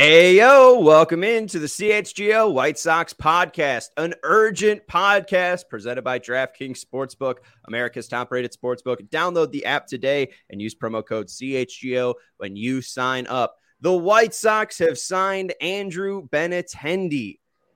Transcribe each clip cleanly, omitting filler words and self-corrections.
Ayo, welcome into the CHGO White Sox podcast, an urgent podcast presented by DraftKings Sportsbook, America's top-rated sportsbook. Download the app today and use promo code CHGO when you sign up. The White Sox have signed Andrew Benintendi.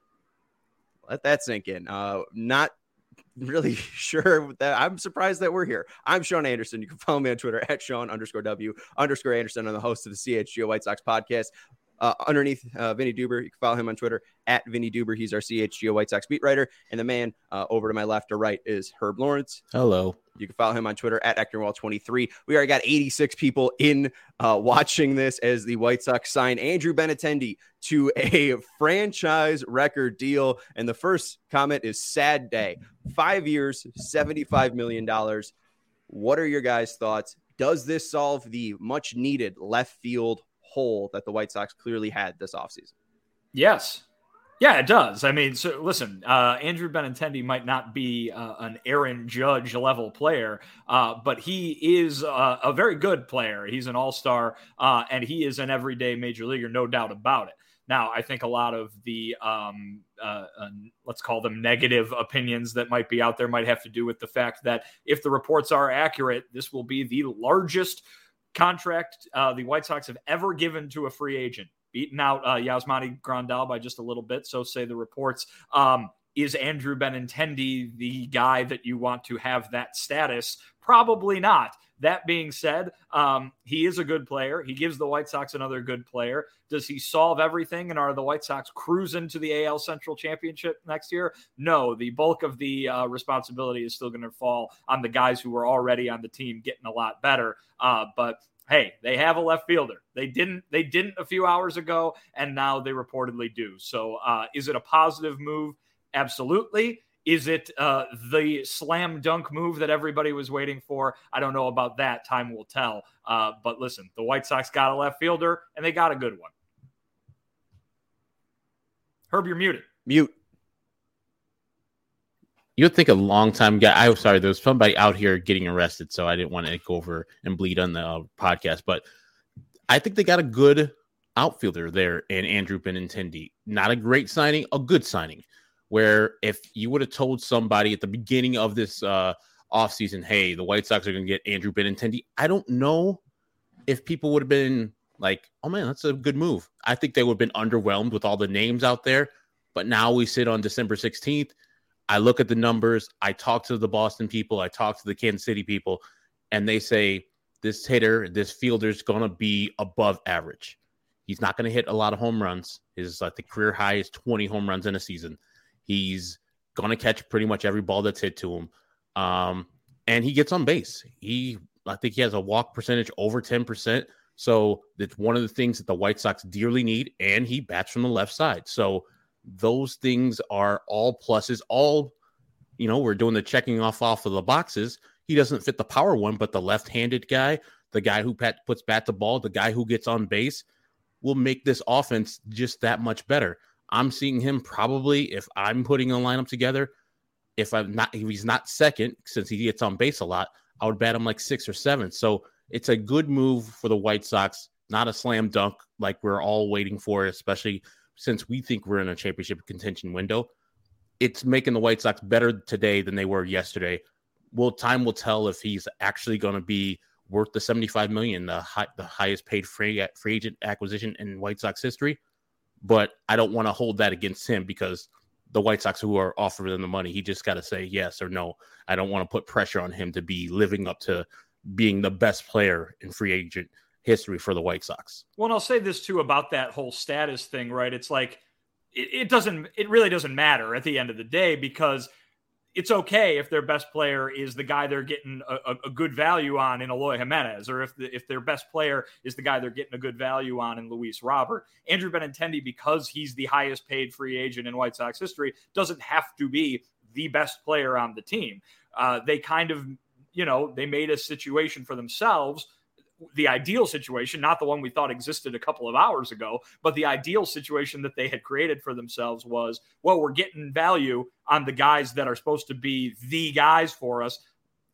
Let that sink in. Not really sure that I'm surprised that we're here. I'm Sean Anderson. You can follow me on Twitter at Sean_W_Anderson. I'm the host of the CHGO White Sox podcast. Underneath Vinny Duber, you can follow him on Twitter at Vinny Duber. He's our CHGO White Sox beat writer. And the man over to my left or right is Herb Lawrence. Hello. You can follow him on Twitter at Ectorwall23. We already got 86 people in watching this as the White Sox sign Andrew Benintendi to a franchise record deal. And the first comment is sad day. 5 years, $75 million. What are your guys' thoughts? Does this solve the much needed left field hole that the White Sox clearly had this offseason? Yes. Yeah, it does. I mean, so listen, Andrew Benintendi might not be an Aaron Judge level player, but he is a very good player. He's an all-star, and he is an everyday major leaguer, no doubt about it. Now, I think a lot of the, let's call them negative opinions that might be out there might have to do with the fact that if the reports are accurate, this will be the largest contract the White Sox have ever given to a free agent, beaten out Yasmani Grandal by just a little bit. So say the reports. Is Andrew Benintendi the guy that you want to have that status? Probably not. That being said, he is a good player. He gives the White Sox another good player. Does he solve everything? And are the White Sox cruising to the AL Central Championship next year? No, the bulk of the responsibility is still going to fall on the guys who were already on the team getting a lot better. But hey, they have a left fielder. They didn't a few hours ago, and now they reportedly do. So is it a positive move? Absolutely. Is it the slam dunk move that everybody was waiting for? I don't know about that. Time will tell. But listen, the White Sox got a left fielder, and they got a good one. Herb, you're muted. Mute. You'd think a long-time guy. I'm sorry, there was somebody out here getting arrested, so I didn't want to go over and bleed on the podcast. But I think they got a good outfielder there in Andrew Benintendi. Not a great signing, a good signing. Where if you would have told somebody at the beginning of this offseason, hey, the White Sox are going to get Andrew Benintendi, I don't know if people would have been like, oh, man, that's a good move. I think they would have been underwhelmed with all the names out there. But now we sit on December 16th. I look at the numbers. I talk to the Boston people. I talk to the Kansas City people. And they say, this hitter, this fielder is going to be above average. He's not going to hit a lot of home runs. His the career high is 20 home runs in a season. He's going to catch pretty much every ball that's hit to him. And he gets on base. I think he has a walk percentage over 10%. So that's one of the things that the White Sox dearly need. And he bats from the left side. So those things are all pluses. We're doing the checking off of the boxes. He doesn't fit the power one, but the left-handed guy, the guy who puts bat to ball, the guy who gets on base will make this offense just that much better. I'm seeing him probably, if I'm putting a lineup together, if he's not second, since he gets on base a lot, I would bat him like 6 or 7. So it's a good move for the White Sox, not a slam dunk like we're all waiting for, especially since we think we're in a championship contention window. It's making the White Sox better today than they were yesterday. Time will tell if he's actually going to be worth the $75 million, the highest paid free agent acquisition in White Sox history. But I don't want to hold that against him because the White Sox who are offering him the money, he just got to say yes or no. I don't want to put pressure on him to be living up to being the best player in free agent history for the White Sox. Well, and I'll say this too about that whole status thing, right? It's like, it really doesn't matter at the end of the day, because it's okay if their best player is the guy they're getting a good value on in Eloy Jimenez, or if their best player is the guy they're getting a good value on in Luis Robert. Andrew Benintendi, because he's the highest paid free agent in White Sox history, doesn't have to be the best player on the team. They kind of, they made a situation for themselves, the ideal situation, not the one we thought existed a couple of hours ago, but the ideal situation that they had created for themselves was, well, we're getting value on the guys that are supposed to be the guys for us.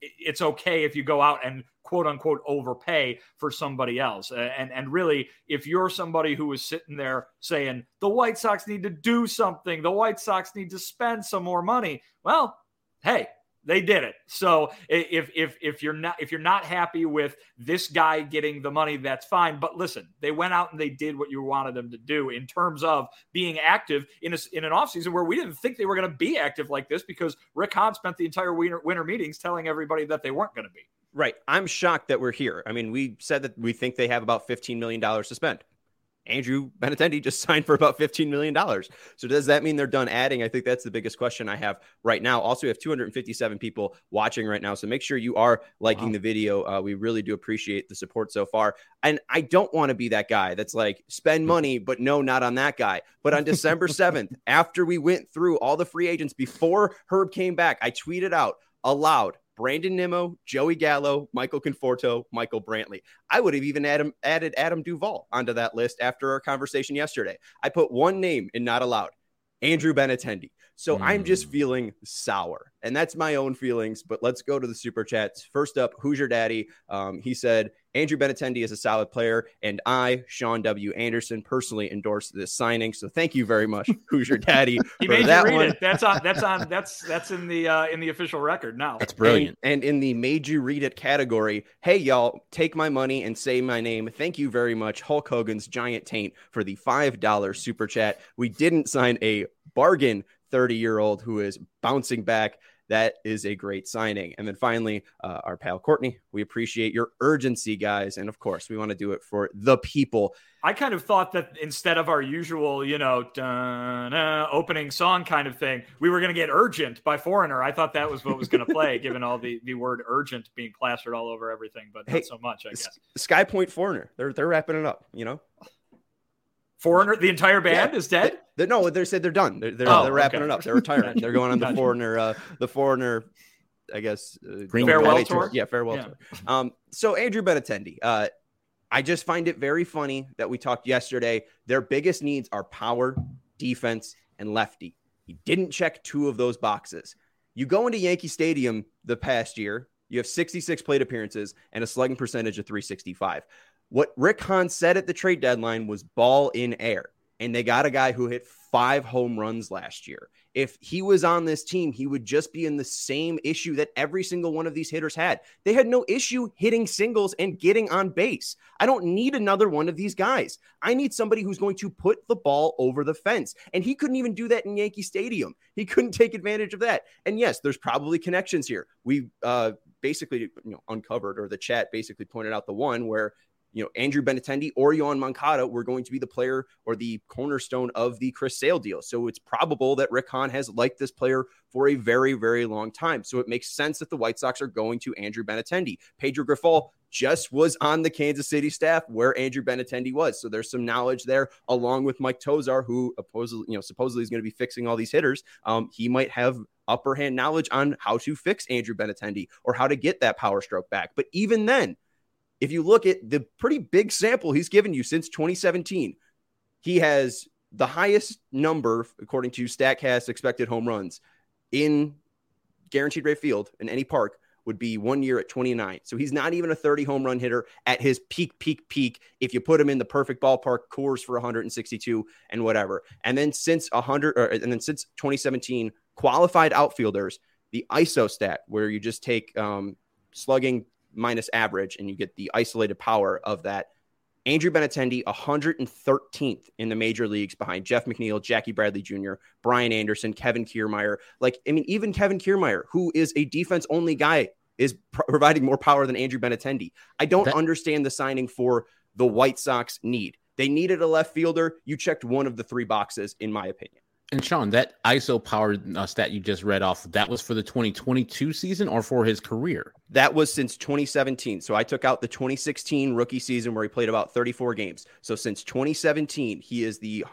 it's okay if you go out and quote unquote overpay for somebody else. And really, if you're somebody who is sitting there saying the White Sox need to do something, the White Sox need to spend some more money, well, hey, they did it. So if you're not happy with this guy getting the money, that's fine. But listen, they went out and they did what you wanted them to do in terms of being active in an offseason where we didn't think they were going to be active like this, because Rick Hahn spent the entire winter meetings telling everybody that they weren't going to be. Right. I'm shocked that we're here. I mean, we said that we think they have about $15 million to spend. Andrew Benintendi just signed for about $15 million. So does that mean they're done adding? I think that's the biggest question I have right now. Also, we have 257 people watching right now. So make sure you are liking the video. We really do appreciate the support so far. And I don't want to be that guy that's like, spend money, but no, not on that guy. But on December 7th, after we went through all the free agents before Herb came back, I tweeted out aloud, Brandon Nimmo, Joey Gallo, Michael Conforto, Michael Brantley. I would have even added Adam Duvall onto that list after our conversation yesterday. I put one name in not allowed, Andrew Benintendi. So I'm just feeling sour, and that's my own feelings. But let's go to the super chats. First up, Who's Your Daddy? He said, Andrew Benintendi is a solid player, and I, Sean W. Anderson, personally endorse this signing. So thank you very much, Who's Your Daddy? He made you read it. That's in the official record now. That's brilliant. And in the made you read it category, hey y'all, take my money and say my name. Thank you very much, Hulk Hogan's Giant Taint, for the $5 super chat. We didn't sign a bargain 30-year-old who is bouncing back. That is a great signing. And then finally, our pal Courtney, we appreciate your urgency, guys. And of course, we want to do it for the people. I kind of thought that instead of our usual, opening song kind of thing, we were going to get Urgent by Foreigner. I thought that was what was going to play, given all the word urgent being plastered all over everything, but not so much, I guess. Sky Point Foreigner, they're wrapping it up, Foreigner, the entire band is dead? No, they said they're done. They're wrapping it up. They're retiring. They're going on the Foreigner, I guess. Farewell tour? Yeah, farewell tour. So Andrew Benintendi, I just find it very funny that we talked yesterday. Their biggest needs are power, defense, and lefty. He didn't check two of those boxes. You go into Yankee Stadium the past year, you have 66 plate appearances and a slugging percentage of .365. What Rick Hahn said at the trade deadline was ball in air, and they got a guy who hit 5 home runs last year. If he was on this team, he would just be in the same issue that every single one of these hitters had. They had no issue hitting singles and getting on base. I don't need another one of these guys. I need somebody who's going to put the ball over the fence, and he couldn't even do that in Yankee Stadium. He couldn't take advantage of that. And yes, there's probably connections here. We basically uncovered, or the chat basically pointed out the one where Andrew Benintendi or Yoan Moncada were going to be the player or the cornerstone of the Chris Sale deal. So it's probable that Rick Hahn has liked this player for a very, very long time. So it makes sense that the White Sox are going to Andrew Benintendi. Pedro Grifol just was on the Kansas City staff where Andrew Benintendi was. So there's some knowledge there, along with Mike Tozar, who supposedly is going to be fixing all these hitters. He might have upper hand knowledge on how to fix Andrew Benintendi or how to get that power stroke back. But even then, if you look at the pretty big sample he's given you since 2017, he has the highest number, according to StatCast, expected home runs in Guaranteed Rate Field in any park would be 1 year at 29. So he's not even a 30 home run hitter at his peak. If you put him in the perfect ballpark, Coors for 162 and whatever. And then since 2017, qualified outfielders, the ISO stat, where you just take slugging minus average and you get the isolated power of that. Andrew Benintendi, 113th in the major leagues behind Jeff McNeil, Jackie Bradley Jr., Brian Anderson, Kevin Kiermaier. Even Kevin Kiermaier, who is a defense-only guy, is providing more power than Andrew Benintendi. I don't understand the signing for the White Sox need. They needed a left fielder. You checked one of the 3 boxes, in my opinion. And Sean, that ISO power stat you just read off, that was for the 2022 season or for his career? That was since 2017. So I took out the 2016 rookie season where he played about 34 games. So since 2017, he is the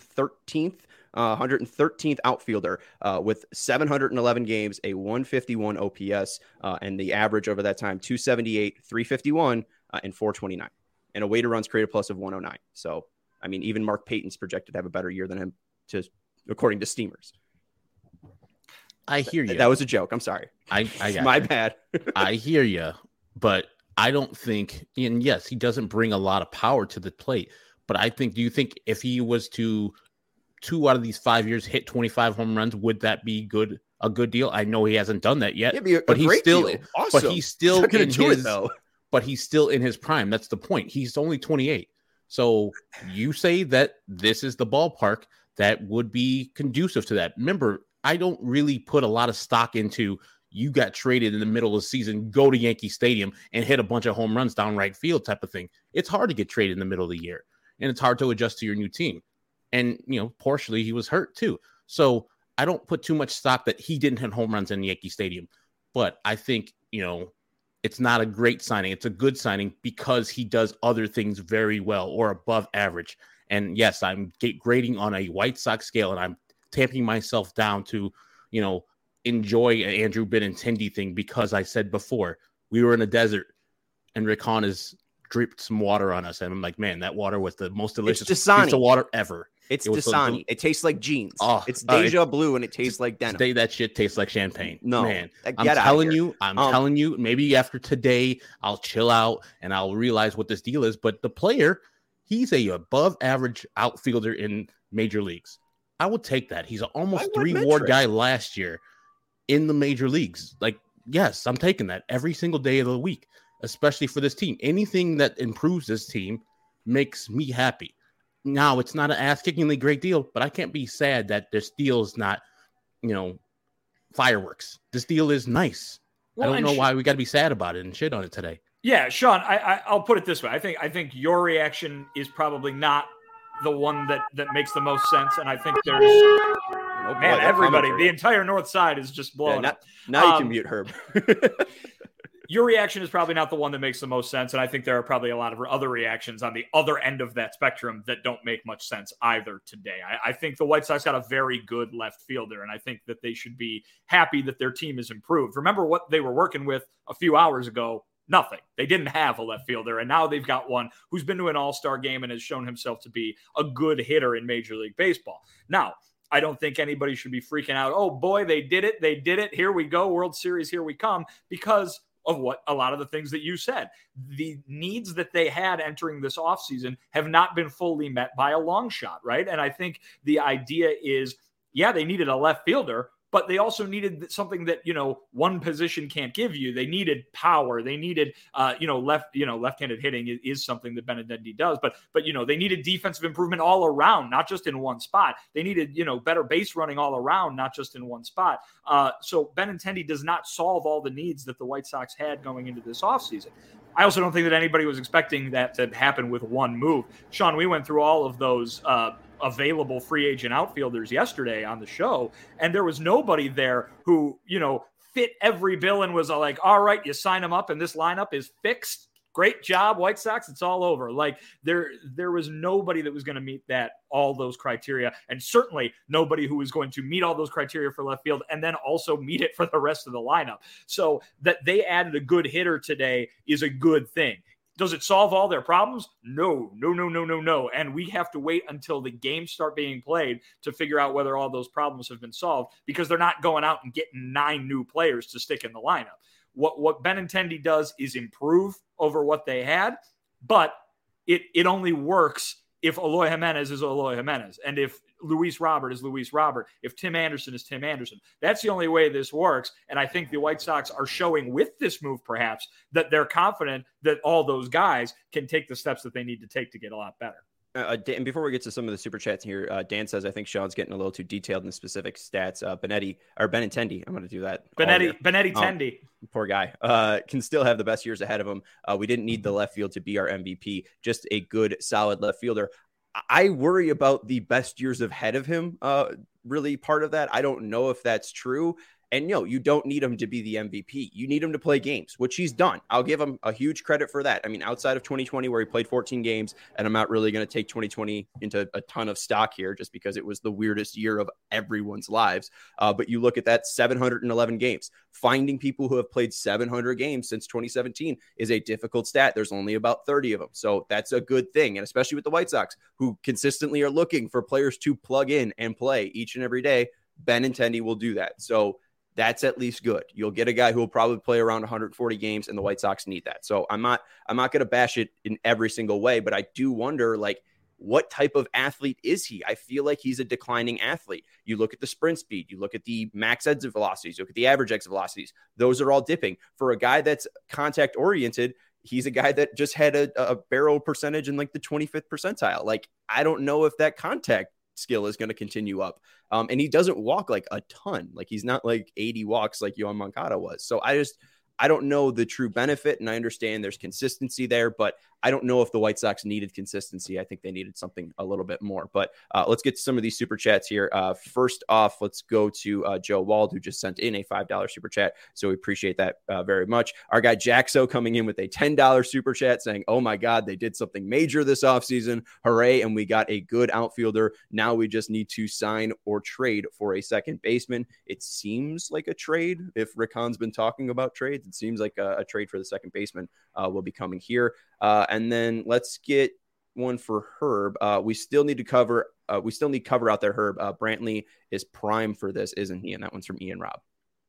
113th outfielder with 711 games, a 151 OPS, and the average over that time, 278, 351, and 429, and a weighted runs created plus of 109. So, even Mark Payton's projected to have a better year than him, according to Steamers. I hear you. That was a joke. I'm sorry. I got My you. bad. I hear you, but I don't think, and yes, he doesn't bring a lot of power to the plate, but I think, do you think if he was to 2 out of these 5 years hit 25 home runs, would that be a good deal? I know he hasn't done that yet, but he's still, awesome. but he's still not gonna do it though. But he's still in his prime. That's the point. He's only 28. So you say that this is the ballpark that would be conducive to that. Remember, I don't really put a lot of stock into you got traded in the middle of the season, go to Yankee Stadium and hit a bunch of home runs down right field type of thing. It's hard to get traded in the middle of the year, and it's hard to adjust to your new team. And, partially he was hurt too. So I don't put too much stock that he didn't hit home runs in Yankee Stadium. But I think, it's not a great signing. It's a good signing because he does other things very well or above average. And yes, I'm grading on a White Sox scale, and I'm tamping myself down to, enjoy an Andrew Benintendi thing, because I said before, we were in a desert and Rick Hahn has dripped some water on us. And I'm like, man, that water was the most delicious piece of water ever. It Dasani. It tastes like jeans. It's Deja Blue, and it tastes like denim. Today, that shit tastes like champagne. No, man, I'm telling you, maybe after today, I'll chill out and I'll realize what this deal is. But the player, he's a above average outfielder in major leagues. I would take that. He's an almost 3 WAR guy last year in the major leagues. Like, yes, I'm taking that every single day of the week, especially for this team. Anything that improves this team makes me happy. Now, it's not an ass-kickingly great deal, but I can't be sad that this deal is not, fireworks. This deal is nice. Well, I don't know why we got to be sad about it and shit on it today. Yeah, Sean, I'll put it this way. I think your reaction is probably not the one that makes the most sense, and I think there's everybody, the entire north side is just blowing up. Now you can mute Herb. Your reaction is probably not the one that makes the most sense, and I think there are probably a lot of other reactions on the other end of that spectrum that don't make much sense either today. I think the White Sox got a very good left fielder, and I think that they should be happy that their team has improved. Remember what they were working with a few hours ago? Nothing. They didn't have a left fielder, and now they've got one who's been to an all-star game and has shown himself to be a good hitter in Major League Baseball. Now, I don't think anybody should be freaking out. Oh, boy, they did it. They did it. Here we go. World Series, here we come. Because of what a lot of the things that you said. The needs that they had entering this offseason have not been fully met by a long shot, right? And I think the idea is, yeah, they needed a left fielder, but they also needed something that, one position can't give you. They needed power. They needed, left-handed hitting is something that Benintendi does, but they needed defensive improvement all around, not just in one spot. They needed, better base running all around, not just in one spot. So Benintendi does not solve all the needs that the White Sox had going into this offseason. I also don't think that anybody was expecting that to happen with one move. Sean, we went through all of those, available free agent outfielders yesterday on the show, and there was nobody there who, fit every bill and was like, all right, you sign them up and this lineup is fixed. Great job, White Sox. It's all over. Like there was nobody that was going to meet all those criteria, and certainly nobody who was going to meet all those criteria for left field and then also meet it for the rest of the lineup. So that they added a good hitter today is a good thing. Does it solve all their problems? No. And we have to wait until the games start being played to figure out whether all those problems have been solved, because they're not going out and getting 9 new players to stick in the lineup. What Benintendi does is improve over what they had, but it only works if Eloy Jimenez is Eloy Jimenez, and if Luis Robert is Luis Robert, if Tim Anderson is Tim Anderson. That's the only way this works, and I think the White Sox are showing with this move perhaps that they're confident that all those guys can take the steps that they need to take to get a lot better. And before we get to some of the super chats here, Dan says, I think Sean's getting a little too detailed in the specific stats. Benintendi, I'm going to do that. Benintendi. Poor guy. Can still have the best years ahead of him. We didn't need the left field to be our MVP, just a good, solid left fielder. I worry about the best years ahead of him. Really part of that. I don't know if that's true. And you don't need him to be the MVP. You need him to play games, which he's done. I'll give him a huge credit for that. I mean, outside of 2020, where he played 14 games, and I'm not really going to take 2020 into a ton of stock here just because it was the weirdest year of everyone's lives. But you look at that 711 games. Finding people who have played 700 games since 2017 is a difficult stat. There's only about 30 of them. So that's a good thing. And especially with the White Sox, who consistently are looking for players to plug in and play each and every day, Benintendi will do that. So That's at least good. You'll get a guy who will probably play around 140 games, and the White Sox need that. So I'm not going to bash it in every single way, but I do wonder, like, what type of athlete is he? I feel like he's a declining athlete. You look at the sprint speed, you look at the max exit velocities, you look at the average exit velocities. Those are all dipping. For a guy that's contact oriented, he's a guy that just had a barrel percentage in like the 25th percentile. Like, I don't know if that contact skill is going to continue up. And he doesn't walk like a ton. Like, he's not like 80 walks like Yoan Moncada was. So I don't know the true benefit, and I understand there's consistency there, but I don't know if the White Sox needed consistency. I think they needed something a little bit more. But let's get to some of these super chats here. First off, let's go to Joe Wald, who just sent in a $5 super chat. So we appreciate that very much. Our guy Jaxo coming in with a $10 super chat saying, oh my God, they did something major this offseason. Hooray. And we got a good outfielder. Now we just need to sign or trade for a second baseman. It seems like a trade. If Rick Hahn's been talking about trades, it seems like a trade for the second baseman will be coming here. And then let's get one for Herb. We still need cover out there, Herb. Brantley is prime for this, isn't he? And that one's from Ian Robb.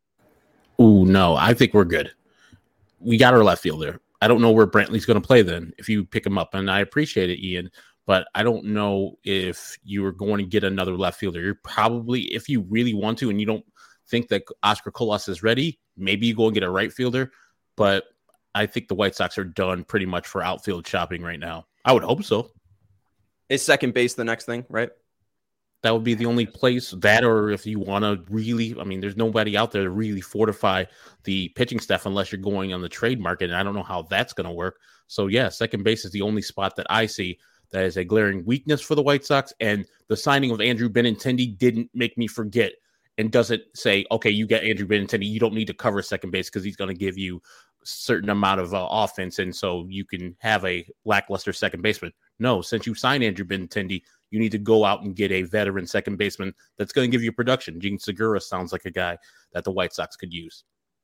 Ooh, no, I think we're good. We got our left fielder. I don't know where Brantley's going to play then if you pick him up. And I appreciate it, Ian, but I don't know if you are going to get another left fielder. You're probably, if you really want to and you don't think that Oscar Colas is ready, maybe you go and get a right fielder. But I think the White Sox are done pretty much for outfield shopping right now. I would hope so. Is second base the next thing, right? That would be the only place that, or if you want to really, I mean, there's nobody out there to really fortify the pitching staff unless you're going on the trade market. And I don't know how that's going to work. So yeah, second base is the only spot that I see that is a glaring weakness for the White Sox. And the signing of Andrew Benintendi didn't make me forget and doesn't say, okay, you get Andrew Benintendi, you don't need to cover second base because he's going to give you a certain amount of offense, and so you can have a lackluster second baseman. No, since you signed Andrew Benintendi, you need to go out and get a veteran second baseman that's going to give you production. Gene Segura sounds like a guy that the White Sox could use.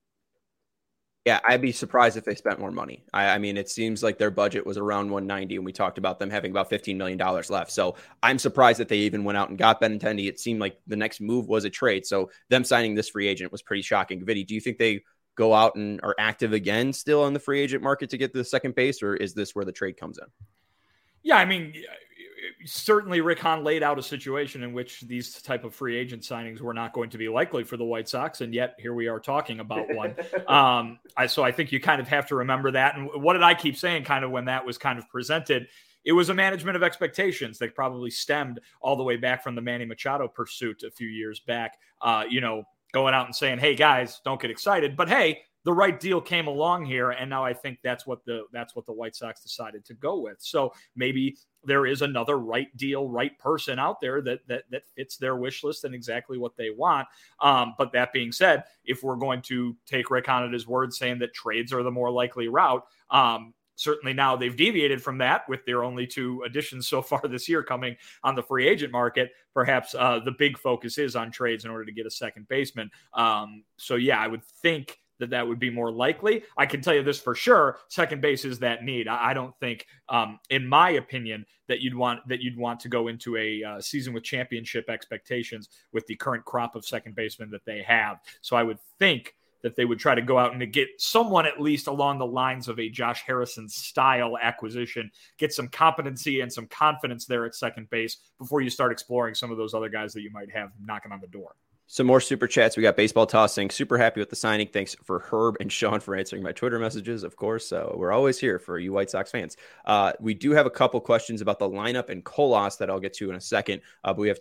Yeah, I'd be surprised if they spent more money. I mean, it seems like their budget was around 190, and we talked about them having about $15 million left. So I'm surprised that they even went out and got Benintendi. It seemed like the next move was a trade. So them signing this free agent was pretty shocking. Vinny, do you think they go out and are active again still on the free agent market to get the second base, or is this where the trade comes in? Yeah, I mean, certainly Rick Hahn laid out a situation in which these type of free agent signings were not going to be likely for the White Sox, and yet here we are talking about one. So I think you kind of have to remember that. And what did I keep saying kind of when that was kind of presented? It was a management of expectations that probably stemmed all the way back from the Manny Machado pursuit a few years back, going out and saying, hey, guys, don't get excited. But, hey, the right deal came along here, and now I think that's what the White Sox decided to go with. So maybe there is another right deal, right person out there that fits their wish list and exactly what they want. But that being said, if we're going to take Rick Hahn at his word saying that trades are the more likely route, certainly now they've deviated from that with their only two additions so far this year coming on the free agent market. Perhaps the big focus is on trades in order to get a second baseman. So yeah, I would think that would be more likely. I can tell you this for sure. Second base is that need. I don't think, in my opinion, that you'd want to go into a season with championship expectations with the current crop of second basemen that they have. So I would think that they would try to go out and to get someone at least along the lines of a Josh Harrison style acquisition, get some competency and some confidence there at second base before you start exploring some of those other guys that you might have knocking on the door. Some more super chats. We got Baseball Toss saying, super happy with the signing. Thanks for Herb and Sean for answering my Twitter messages, of course. We're always here for you White Sox fans. We do have a couple questions about the lineup and Colas that I'll get to in a second. But we have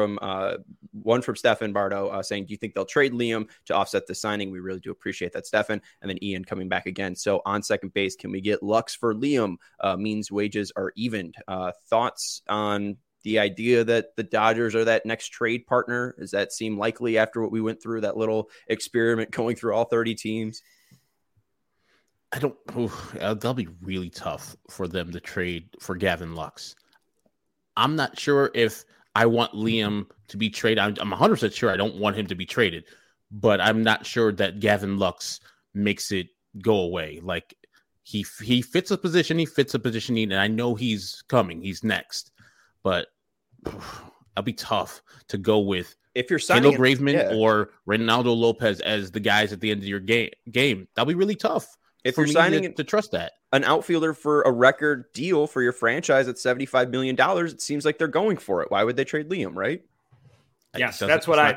one from Stefan Bardo saying, do you think they'll trade Liam to offset the signing? We really do appreciate that, Stefan. And then Ian coming back again. So on second base, can we get Lux for Liam? Means wages are evened. Thoughts on the idea that the Dodgers are that next trade partner? Does that seem likely after what we went through, that little experiment going through all 30 teams? That'll be really tough for them to trade for Gavin Lux. I'm not sure if I want Liam to be traded. I'm 100% sure I don't want him to be traded, but I'm not sure that Gavin Lux makes it go away. Like he fits a position, need, and I know he's coming. He's next, but it'll be tough to go with if you're signing Kendall Graveman or Ronaldo Lopez as the guys at the end of your game, that'll be really tough. If you're signing to trust that an outfielder for a record deal for your franchise at $75 million, it seems like they're going for it. Why would they trade Liam, right? Yes, that's what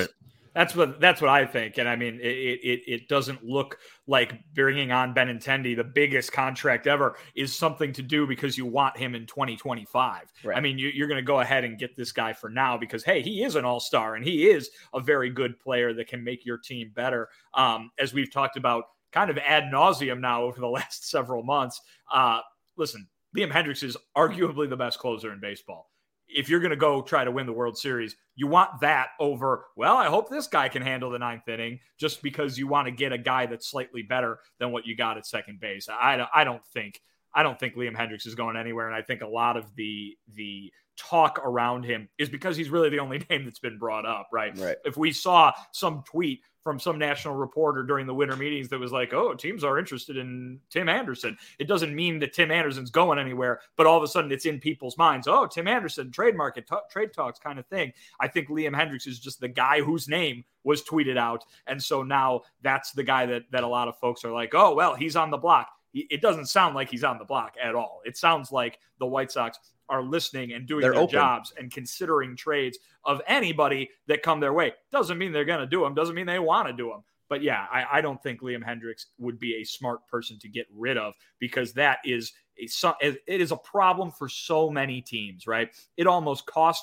I think. And I mean, it doesn't look like bringing on Benintendi, the biggest contract ever, is something to do because you want him in 2025. Right. I mean, you're going to go ahead and get this guy for now because, hey, he is an all-star and he is a very good player that can make your team better. As we've talked about kind of ad nauseum now over the last several months. Listen, Liam Hendriks is arguably the best closer in baseball. If you're going to go try to win the World Series, you want that over, well, I hope this guy can handle the ninth inning, just because you want to get a guy that's slightly better than what you got at second base. I don't think Liam Hendriks is going anywhere. And I think a lot of the talk around him is because he's really the only name that's been brought up, right? If we saw some tweet from some national reporter during the winter meetings that was like, oh, teams are interested in Tim Anderson, it doesn't mean that Tim Anderson's going anywhere, but all of a sudden it's in people's minds. Oh, Tim Anderson, trade market, trade talks kind of thing. I think Liam Hendriks is just the guy whose name was tweeted out. And so now that's the guy that a lot of folks are like, oh, well, he's on the block. It doesn't sound like he's on the block at all. It sounds like the White Sox are listening and doing their jobs and considering trades of anybody that come their way. Doesn't mean they're going to do them. Doesn't mean they want to do them. But yeah, I don't think Liam Hendriks would be a smart person to get rid of, because that is it is a problem for so many teams, right? It almost cost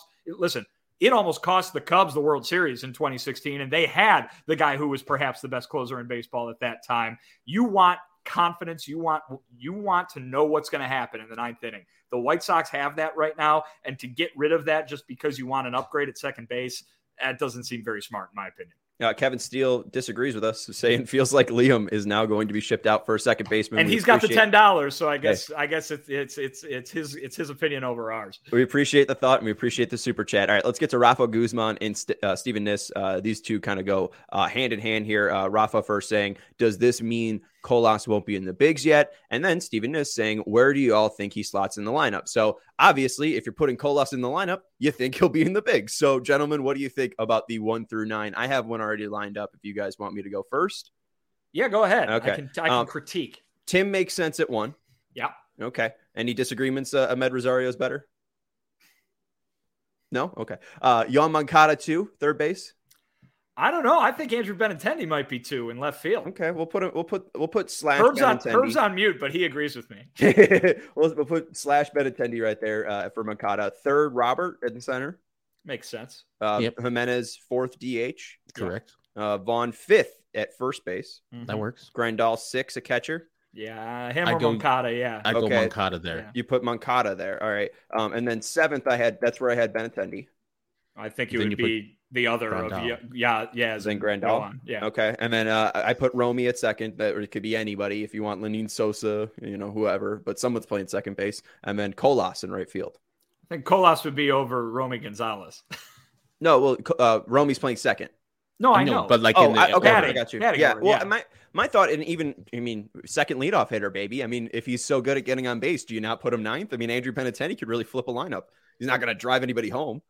the Cubs the World Series in 2016, and they had the guy who was perhaps the best closer in baseball at that time. You want confidence. You want to know what's going to happen in the ninth inning. The White Sox have that right now, and to get rid of that just because you want an upgrade at second base, that doesn't seem very smart in my opinion. Kevin Steele disagrees with us, saying feels like Liam is now going to be shipped out for a second baseman. And he's got the $10, so I guess it's his opinion over ours. We appreciate the thought and we appreciate the super chat. All right, let's get to Rafa Guzman and Stephen Niss. These two kind of go hand in hand here. Rafa first saying, does this mean Colas won't be in the bigs yet? And then Stephen Niss saying, where do you all think he slots in the lineup? So obviously, if you're putting Colas in the lineup, you think he'll be in the bigs. So gentlemen, what do you think about the 1 through 9? I have one already lined up if you guys want me to go first. Yeah, go ahead. Okay. I can critique. Tim makes sense at 1. Yeah. Okay. Any disagreements? Ahmed Rosario is better? No? Okay. Yoan Moncada 2, third base. I don't know. I think Andrew Benintendi might be 2 in left field. Okay, we'll put slash Herb's on mute, but he agrees with me. we'll put slash Benintendi right there for Moncada. Third, Robert at the center. Makes sense. Jimenez, 4th DH. Correct. Vaughn, 5th at first base. Mm-hmm. That works. Grandal, 6 a catcher. Yeah, Moncada. Yeah, I go Moncada there. Yeah. You put Moncada there. All right. And then 7th, that's where I had Benintendi. I think it would be the other Grandal. Then Grandal. Yeah. Okay. And then I put Romy at second. That it could be anybody if you want Lenin Sosa, whoever, but someone's playing second base. And then Colas in right field. I think Colas would be over Romy Gonzalez. No, well, Romy's playing second. No, I know. But like, I got you. Yeah. Well, my thought, and even, second leadoff hitter, baby. I mean, if he's so good at getting on base, do you not put him 9th? I mean, Andrew Benintendi could really flip a lineup. He's not going to drive anybody home.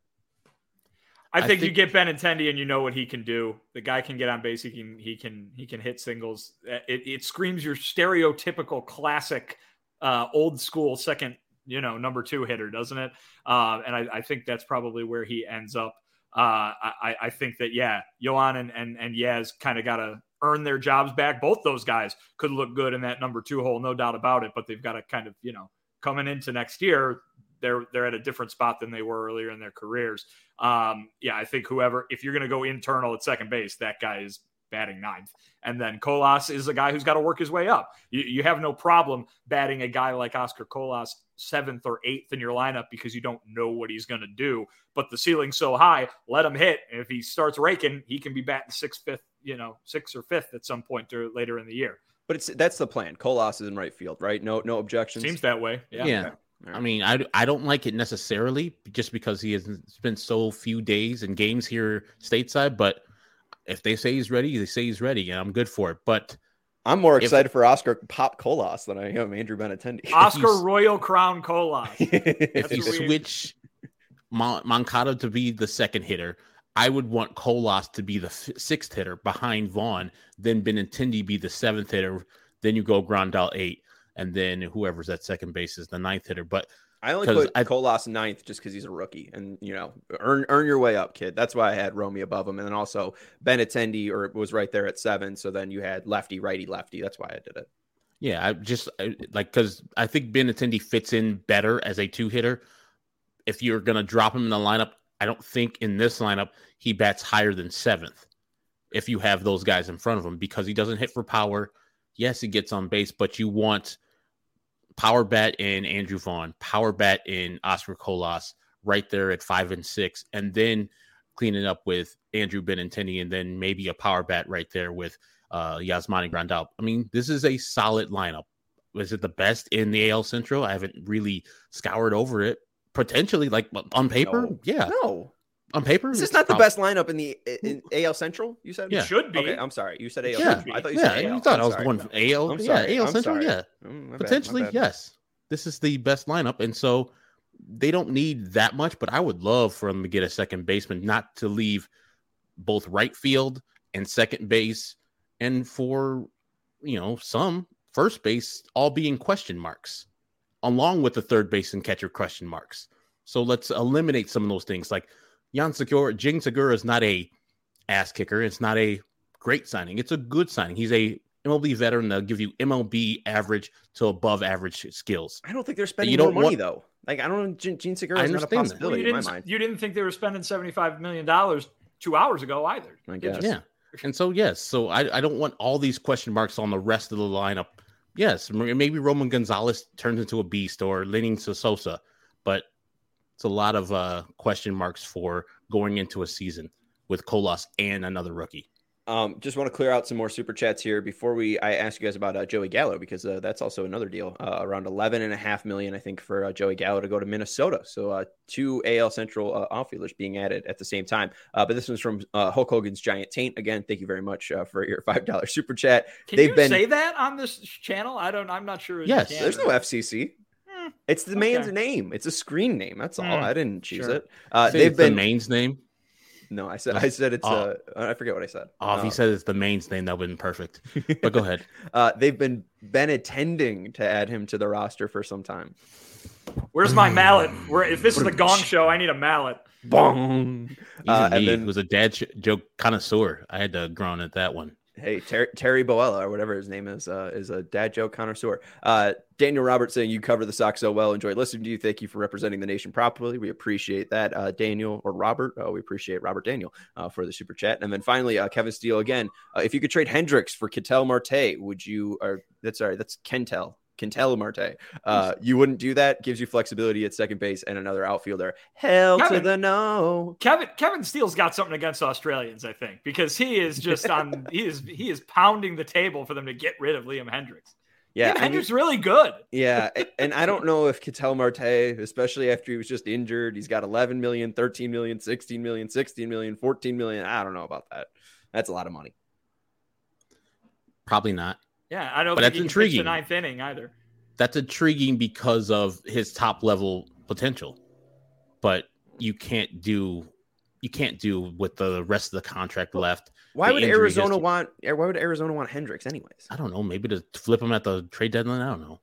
I think you get Benintendi and you know what he can do. The guy can get on base. He can hit singles. It screams your stereotypical classic old school second, number 2 hitter, doesn't it? And I think that's probably where he ends up. I think that, Yoan and Yaz kind of got to earn their jobs back. Both those guys could look good in that number 2 hole, no doubt about it, but they've got to kind of, coming into next year, they're at a different spot than they were earlier in their careers. I think if you're going to go internal at second base, that guy is batting 9th. And then Colas is a guy who's got to work his way up. You have no problem batting a guy like Oscar Colas 7th or 8th in your lineup because you don't know what he's going to do. But the ceiling's so high, let him hit. And if he starts raking, he can be batting 6th, 5th, 6th or 5th at some point later in the year. But that's the plan. Colas is in right field, right? No objections. Seems that way. Yeah. Okay. I mean, I don't like it necessarily just because he has spent so few days and games here stateside. But if they say he's ready, they say he's ready, and I'm good for it. But I'm more excited for Oscar Pop Colas than I am Andrew Benintendi. Oscar Royal Crown Colas. If you switch Moncada to be the second hitter, I would want Colas to be the sixth hitter behind Vaughn, then Benintendi be the seventh hitter. Then you go Grandal 8, and then whoever's at second base is the ninth hitter. But I only put Colas ninth just because he's a rookie, and earn your way up, kid. That's why I had Romy above him, and then also Benintendi was right there at 7. So then you had lefty, righty, lefty. That's why I did it. Yeah, because I think Benintendi fits in better as a 2-hitter. If you're gonna drop him in the lineup, I don't think in this lineup he bats higher than 7th. If you have those guys in front of him, because he doesn't hit for power. Yes, he gets on base, but you want power bat in Andrew Vaughn, power bat in Oscar Colas, right there at 5 and 6, and then cleaning up with Andrew Benintendi, and then maybe a power bat right there with Yasmani Grandal. I mean, this is a solid lineup. Was it the best in the AL Central? I haven't really scoured over it. Potentially, like on paper, No. On paper, is this not the best lineup in AL Central? You said it should be. Okay, I'm sorry. You said AL Central. I thought you said AL. You thought I was going for AL. AL Central. Yeah, potentially, yes. This is the best lineup, and so they don't need that much. But I would love for them to get a second baseman, not to leave both right field and second base, and for some first base all being question marks, along with the third base and catcher question marks. So let's eliminate some of those things. Like Jing Segura is not a ass kicker. It's not a great signing. It's a good signing. He's a MLB veteran that'll give you MLB average to above average skills. I don't think they're spending more money though. Like I don't know, Gene Segura is not a possibility in my mind. You didn't think they were spending $75 million 2 hours ago either. I guess. Yeah. And so, yes. So I don't want all these question marks on the rest of the lineup. Yes, maybe Roman Gonzalez turns into a beast or Lenny Sosa, but it's a lot of question marks for going into a season with Colas and another rookie. Just want to clear out some more super chats here before I ask you guys about Joey Gallo, because that's also another deal, around $11.5 million, I think, for Joey Gallo to go to Minnesota. So 2 AL Central outfielders being added at the same time. But this one's from Hulk Hogan's Giant Taint. Again, thank you very much for your $5 super chat. Can you say that on this channel? I'm not sure. Yes, there's no FCC. It's the man's name. It's a screen name. That's all. I didn't choose it. They've been the man's name. No, I said it's I forget what I said. If he said it's the main's name, that would have been perfect. But go ahead. They've been attending to add him to the roster for some time. Where's my mallet? If this is the Gong Show, I need a mallet. Bong. And then was a dad joke connoisseur. I had to groan at that one. Hey, Terry Boella, or whatever his name is a dad joke connoisseur. Daniel Roberts saying, you cover the Sox so well. Enjoyed listening to you. Thank you for representing the nation properly. We appreciate that. Daniel or Robert. We appreciate Robert Daniel for the super chat. And then finally, Kevin Steele again. If you could trade Hendricks for Ketel Marte, would you? That's Kentel Marte. You wouldn't do that. Gives you flexibility at second base and another outfielder. To the no. Kevin Steele's got something against Australians, I think, because he is just on. he is pounding the table for them to get rid of Liam Hendricks. Yeah, Hendricks really good. Yeah, and I don't know if Ketel Marte, especially after he was just injured, he's got 11 million, 13 million, 16 million, 16 million, 14 million. I don't know about that. That's a lot of money. Probably not. Yeah, I don't but think that's he intriguing. Can pitch the 9th inning either. That's intriguing because of his top level potential, but you can't do with the rest of the contract left. Why would Arizona want Hendricks anyways? I don't know. Maybe to flip him at the trade deadline. I don't know.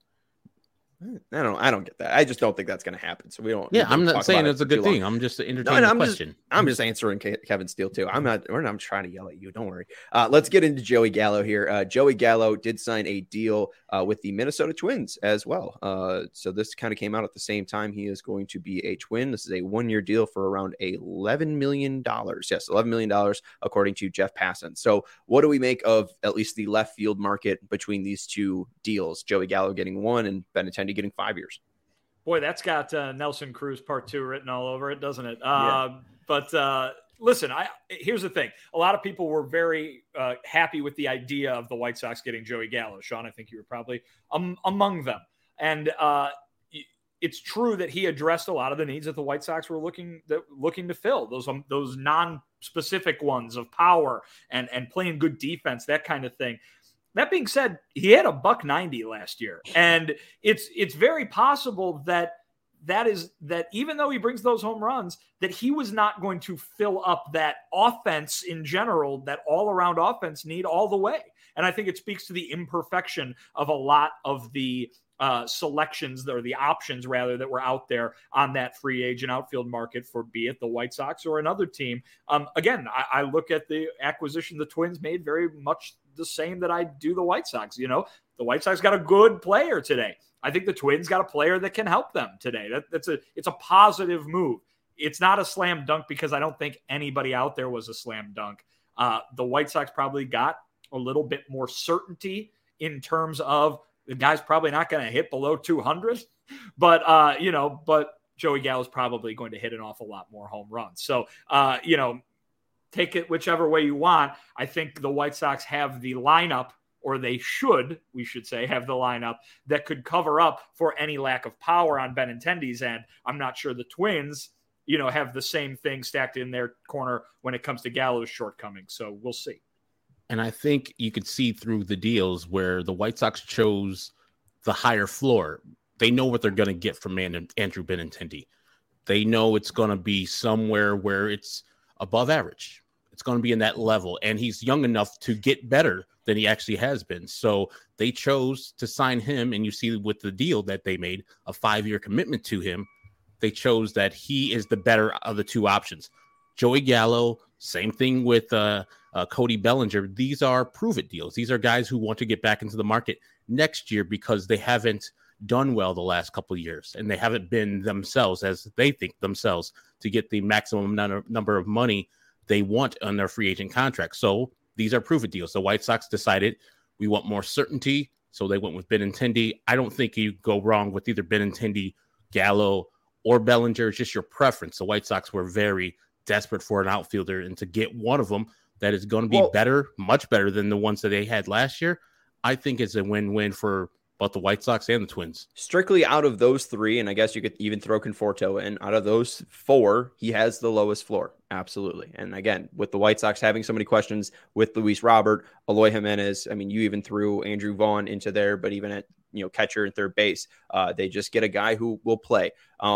I don't get that. I just don't think that's going to happen. So we don't. Yeah, I'm not saying it's a good thing. I'm just entertaining the question. I'm just answering Kevin Steele too. I'm trying to yell at you. Don't worry. Let's get into Joey Gallo here. Joey Gallo did sign a deal with the Minnesota Twins as well. So this kind of came out at the same time. He is going to be a Twin. This is a 1-year deal for around $11 million. Yes, $11 million according to Jeff Passan. So what do we make of at least the left field market between these two deals? Joey Gallo getting 1 and Benintendi getting 5 years. Boy, that's got Nelson Cruz Part 2 written all over it, doesn't it? Yeah. But listen, here's the thing. A lot of people were very happy with the idea of the White Sox getting Joey Gallo. Sean, I think you were probably among them. And it's true that he addressed a lot of the needs that the White Sox were looking to fill, those non-specific ones of power and playing good defense, that kind of thing. That being said, he had a $190 last year, and it's very possible that that even though he brings those home runs, that he was not going to fill up that offense in general, that all-around offense need all the way. And I think it speaks to the imperfection of a lot of the selections, or the options rather, that were out there on that free agent outfield market for be it the White Sox or another team. Again, I look at the acquisition the Twins made very much the same that I do the White Sox. The White Sox got a good player today. I think the Twins got a player that can help them today. It's a positive move. It's not a slam dunk because I don't think anybody out there was a slam dunk. The White Sox probably got a little bit more certainty in terms of the guy's probably not going to hit below 200, but Joey Gallo is probably going to hit an awful lot more home runs. So, take it whichever way you want. I think the White Sox have the lineup, or we should say, have the lineup that could cover up for any lack of power on Benintendi's end. I'm not sure the Twins, have the same thing stacked in their corner when it comes to Gallo's shortcomings. So we'll see. And I think you could see through the deals where the White Sox chose the higher floor. They know what they're going to get from Andrew Benintendi. They know it's going to be somewhere where it's above average. It's going to be in that level. And he's young enough to get better than he actually has been. So they chose to sign him. And you see with the deal that they made, a 5-year commitment to him, they chose that he is the better of the two options. Joey Gallo, same thing with Cody Bellinger. These are prove-it deals. These are guys who want to get back into the market next year because they haven't done well the last couple of years, and they haven't been themselves as they think themselves to get the maximum number of money they want on their free agent contract. So these are prove-it deals. The White Sox decided we want more certainty, so they went with Benintendi. I don't think you go wrong with either Benintendi, Gallo, or Bellinger. It's just your preference. The White Sox were very desperate for an outfielder, and to get one of them that is going to be better, much better than the ones that they had last year, I think it's a win-win for both the White Sox and the Twins. Strictly out of those three, and I guess you could even throw Conforto in, out of those four, he has the lowest floor. Absolutely. And again, with the White Sox having so many questions with Luis Robert, Eloy Jimenez, I mean, you even threw Andrew Vaughn into there, but even at catcher and third base, they just get a guy who will play.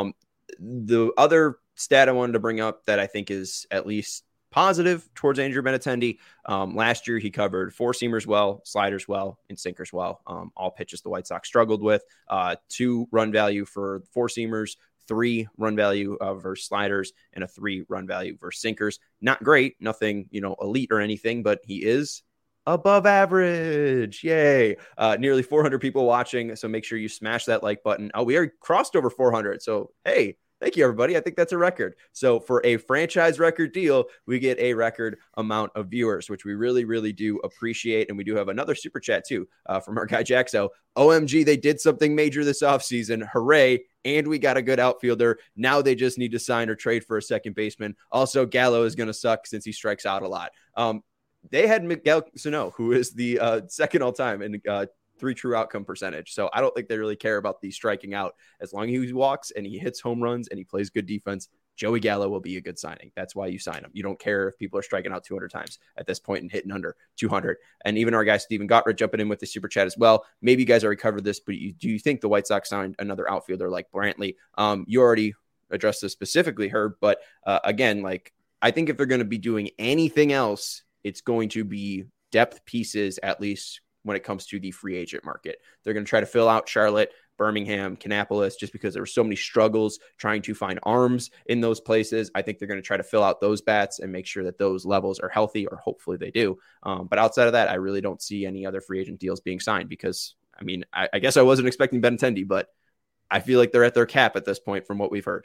The other stat I wanted to bring up that I think is at least positive towards Andrew Benintendi. Last year, he covered four-seamers well, sliders well, and sinkers well. All pitches the White Sox struggled with. 2 run value for four-seamers, 3 run value versus sliders, and a 3 run value versus sinkers. Not great, nothing elite or anything, but he is above average. Yay. Nearly 400 people watching, so make sure you smash that like button. We are crossed over 400, so hey, thank you, everybody. I think that's a record. So for a franchise record deal, we get a record amount of viewers, which we really, really do appreciate. And we do have another super chat, too, from our guy, Jaxo. OMG, they did something major this offseason. Hooray. And we got a good outfielder. Now they just need to sign or trade for a second baseman. Also, Gallo is going to suck since he strikes out a lot. They had Miguel Sano, who is the second all-time in 3 true outcome percentage. So I don't think they really care about the striking out. As long as he walks and he hits home runs and he plays good defense, Joey Gallo will be a good signing. That's why you sign him. You don't care if people are striking out 200 times at this point and hitting under 200. And even our guy, Steven Gottred, jumping in with the super chat as well. Maybe you guys already covered this, but do you think the White Sox signed another outfielder like Brantley? You already addressed this specifically, Herb, but again, I think if they're going to be doing anything else, it's going to be depth pieces, at least when it comes to the free agent market. They're going to try to fill out Charlotte, Birmingham, Kannapolis, just because there were so many struggles trying to find arms in those places. I think they're going to try to fill out those bats and make sure that those levels are healthy, or hopefully they do. But outside of that, I really don't see any other free agent deals being signed because, I guess I wasn't expecting Benintendi, but I feel like they're at their cap at this point from what we've heard.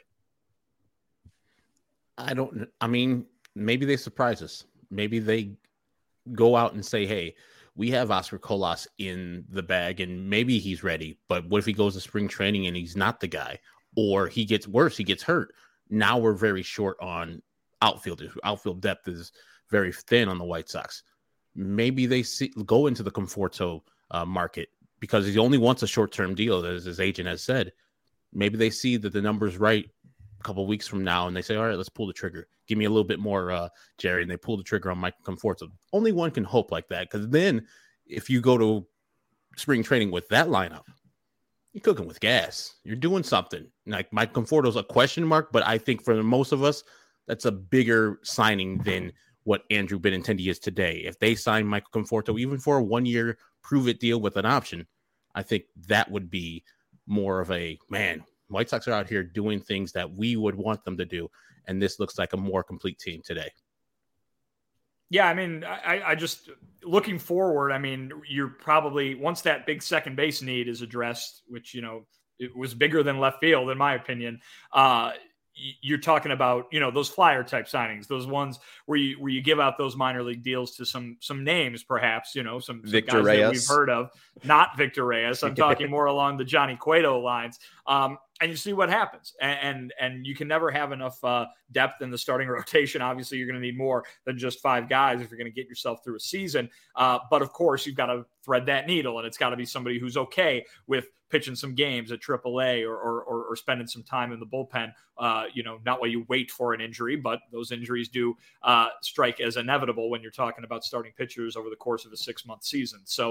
Maybe they surprise us. Maybe they go out and say, hey, we have Oscar Colas in the bag and maybe he's ready, but what if he goes to spring training and he's not the guy, or he gets worse, he gets hurt? Now we're very short on outfielders. Outfield depth is very thin on the White Sox. Maybe they go into the Conforto market because he only wants a short-term deal, as his agent has said. Maybe they see that the number's right a couple of weeks from now and they say, all right, let's pull the trigger. Give me a little bit more, Jerry, and they pull the trigger on Mike Conforto. Only one can hope like that, because then if you go to spring training with that lineup, you're cooking with gas. You're doing something. Like Mike Conforto's a question mark, but I think for most of us, that's a bigger signing than what Andrew Benintendi is today. If they sign Michael Conforto, even for a 1-year prove-it deal with an option, I think that would be more of a, man, White Sox are out here doing things that we would want them to do, and this looks like a more complete team today. Yeah, I mean, I just looking forward. I mean, you're probably once that big second base need is addressed, which it was bigger than left field in my opinion. You're talking about those flyer type signings, those ones where you give out those minor league deals to some names, perhaps some Victor guys Reyes that we've heard of. Not Victor Reyes. I'm talking more along the Johnny Cueto lines. And you see what happens. And you can never have enough depth in the starting rotation. Obviously, you're going to need more than just 5 guys if you're going to get yourself through a season. But of course, you've got to thread that needle, and it's got to be somebody who's okay with pitching some games at AAA or spending some time in the bullpen. Not while you wait for an injury, but those injuries do strike as inevitable when you're talking about starting pitchers over the course of a 6-month season. So,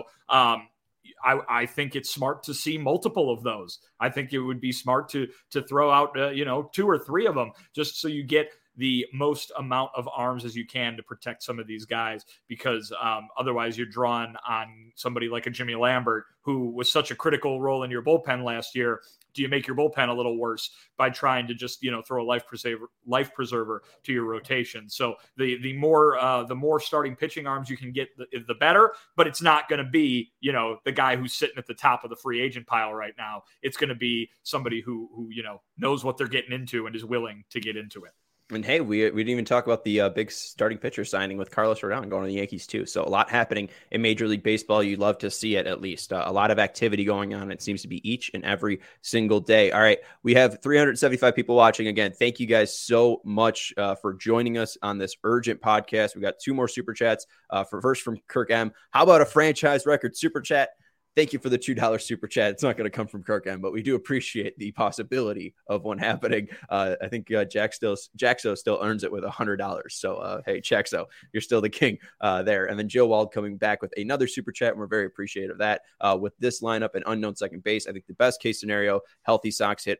I think it's smart to see multiple of those. I think it would be smart to throw out 2 or 3 of them just so you get the most amount of arms as you can to protect some of these guys, because otherwise you're drawing on somebody like a Jimmy Lambert, who was such a critical role in your bullpen last year. Do you make your bullpen a little worse by trying to just you know, throw a life preserver to your rotation? So the more starting pitching arms you can get, the better. But it's not going to be the guy who's sitting at the top of the free agent pile right now. It's going to be somebody who knows what they're getting into and is willing to get into it. And hey, we didn't even talk about the big starting pitcher signing with Carlos Rodon going to the Yankees too. So a lot happening in Major League Baseball. You'd love to see it, at least. A lot of activity going on. It seems to be each and every single day. All right, we have 375 people watching. Again, thank you guys so much for joining us on this urgent podcast. We got 2 more super chats. First from Kirk M. How about a franchise record super chat? Thank you for the $2 super chat. It's not going to come from Kirk M, but we do appreciate the possibility of one happening. I think Jaxo still earns it with $100. So, hey, Jaxo, you're still the king there. And then Joe Wald coming back with another super chat, and we're very appreciative of that. With this lineup and unknown second base, I think the best case scenario, healthy Sox hit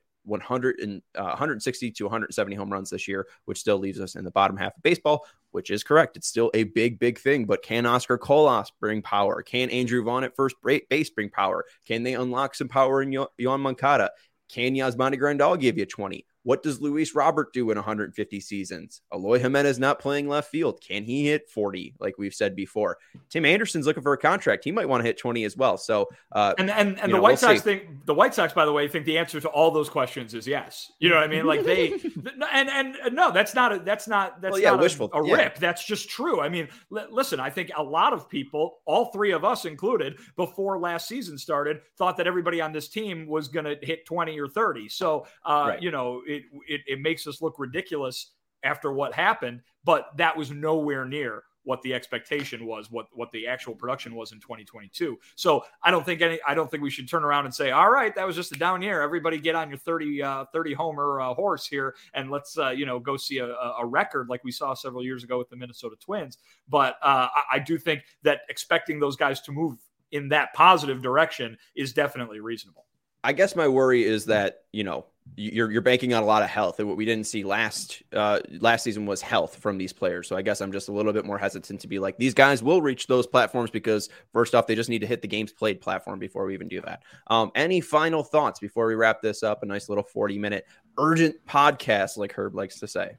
160 to 170 home runs this year, which still leaves us in the bottom half of baseball, which is correct. It's still a big thing, but can Oscar Colas bring power? Can Andrew Vaughn at first base bring power? Can they unlock some power in Yoan Moncada? Can Yasmani Grandal give you 20? What does Luis Robert do in 150 seasons? Eloy Jimenez not playing left field. Can he hit 40, like we've said before? Tim Anderson's looking for a contract. He might want to hit 20 as well. So, the White Sox think, the White Sox, by the way, think the answer to all those questions is yes. You know what I mean? Like they, no, that's not wishful rip. That's just true. I mean, listen, I think a lot of people, all 3 of us included, before last season started, thought that everybody on this team was going to hit 20 or 30. So, right. It makes us look ridiculous after what happened, but that was nowhere near what the expectation was, what the actual production was in 2022. So I don't think we should turn around and say, all right, that was just a down year. Everybody get on your 30 homer horse here, and let's go see a record like we saw several years ago with the Minnesota Twins. But I do think that expecting those guys to move in that positive direction is definitely reasonable. I guess my worry is that, you're banking on a lot of health, and what we didn't see last season was health from these players. So I guess I'm just a little bit more hesitant to be like, these guys will reach those platforms, because first off, they just need to hit the games played platform before we even do that. Any final thoughts before we wrap this up? A nice little 40-minute urgent podcast, like Herb likes to say.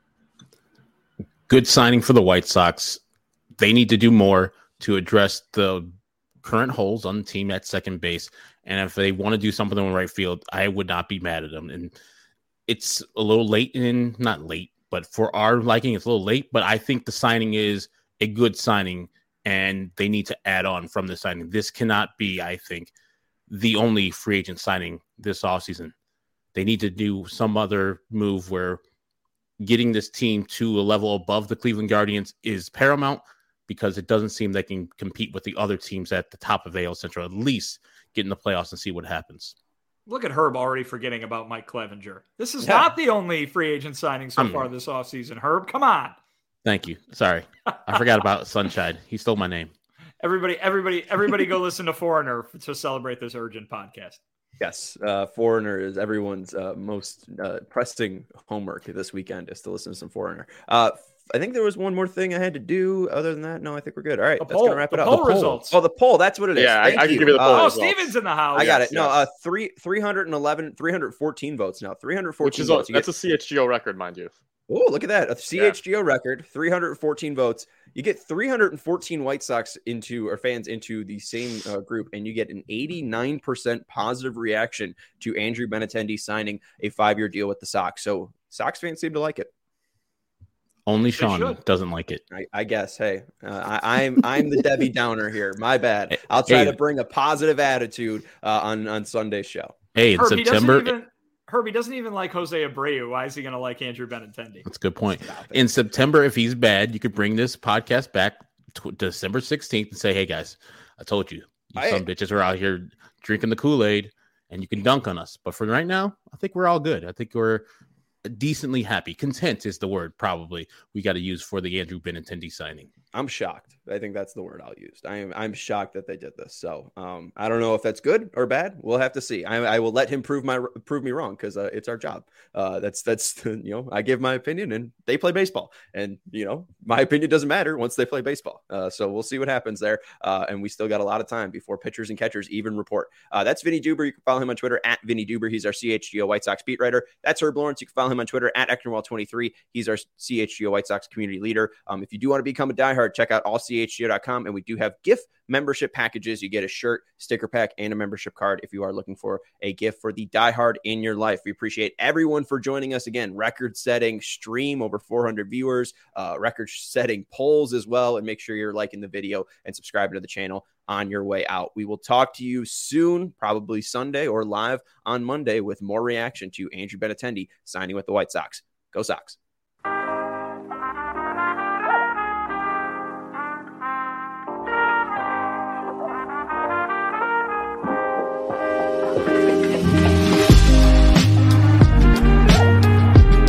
Good signing for the White Sox. They need to do more to address the current holes on the team at second base. And if they want to do something in right field, I would not be mad at them. And it's a little late, not late, but for our liking, it's a little late. But I think the signing is a good signing, and they need to add on from the signing. This cannot be, I think, the only free agent signing this offseason. They need to do some other move where getting this team to a level above the Cleveland Guardians is paramount, because it doesn't seem they can compete with the other teams at the top of AL Central, at least get in the playoffs and see what happens. Look at Herb already forgetting about Mike Clevenger. This is not the only free agent signing so far this offseason. Herb, come on. Thank you. Sorry. I forgot about Sunshine. He stole my name. Everybody go listen to Foreigner to celebrate this urgent podcast. Yes, Foreigner is everyone's most pressing homework this weekend is to listen to some Foreigner. I think there was one more thing I had to do. Other than that, no, I think we're good. All right, that's going to wrap it up. The poll results. Oh, the poll. That's what it is. Yeah, I can give you the poll results. Steven's in the house. I got it. No, 314 votes now. 314 Which is votes. That's a CHGO record, mind you. Oh, look at that. A CHGO record, 314 votes. You get 314 White Sox fans into the same group, and you get an 89% positive reaction to Andrew Benintendi signing a 5-year deal with the Sox. So Sox fans seem to like it. Only Sean doesn't like it. I guess. Hey, I'm the Debbie Downer here. My bad. I'll try to bring a positive attitude on Sunday's show. Hey, in September. Herbie doesn't even like Jose Abreu. Why is he going to like Andrew Benintendi? That's a good point. In September, if he's bad, you could bring this podcast back to December 16th and say, hey, guys, I told you. Some bitches are out here drinking the Kool-Aid, and you can dunk on us. But for right now, I think we're all good. I think we're decently happy. Content is the word probably we got to use for the Andrew Benintendi signing. I'm shocked. I think that's the word I'll use. I'm shocked that they did this. So I don't know if that's good or bad. We'll have to see. I will let him prove me wrong because it's our job. That's I give my opinion and they play baseball, and my opinion doesn't matter once they play baseball. So we'll see what happens there. And we still got a lot of time before pitchers and catchers even report. That's Vinny Duber. You can follow him on Twitter at Vinny Duber. He's our CHGO White Sox beat writer. That's Herb Lawrence. You can follow him on Twitter at Ecknerwall23. He's our CHGO White Sox community leader. If you do want to become a diehard, check out allchgo.com, and we do have gift membership packages. You get a shirt, sticker pack, and a membership card if you are looking for a gift for the diehard in your life. We appreciate everyone for joining us again. Record-setting stream, over 400 viewers, record-setting polls as well, and make sure you're liking the video and subscribing to the channel on your way out. We will talk to you soon, probably Sunday or live on Monday with more reaction to Andrew Benintendi signing with the White Sox. Go Sox.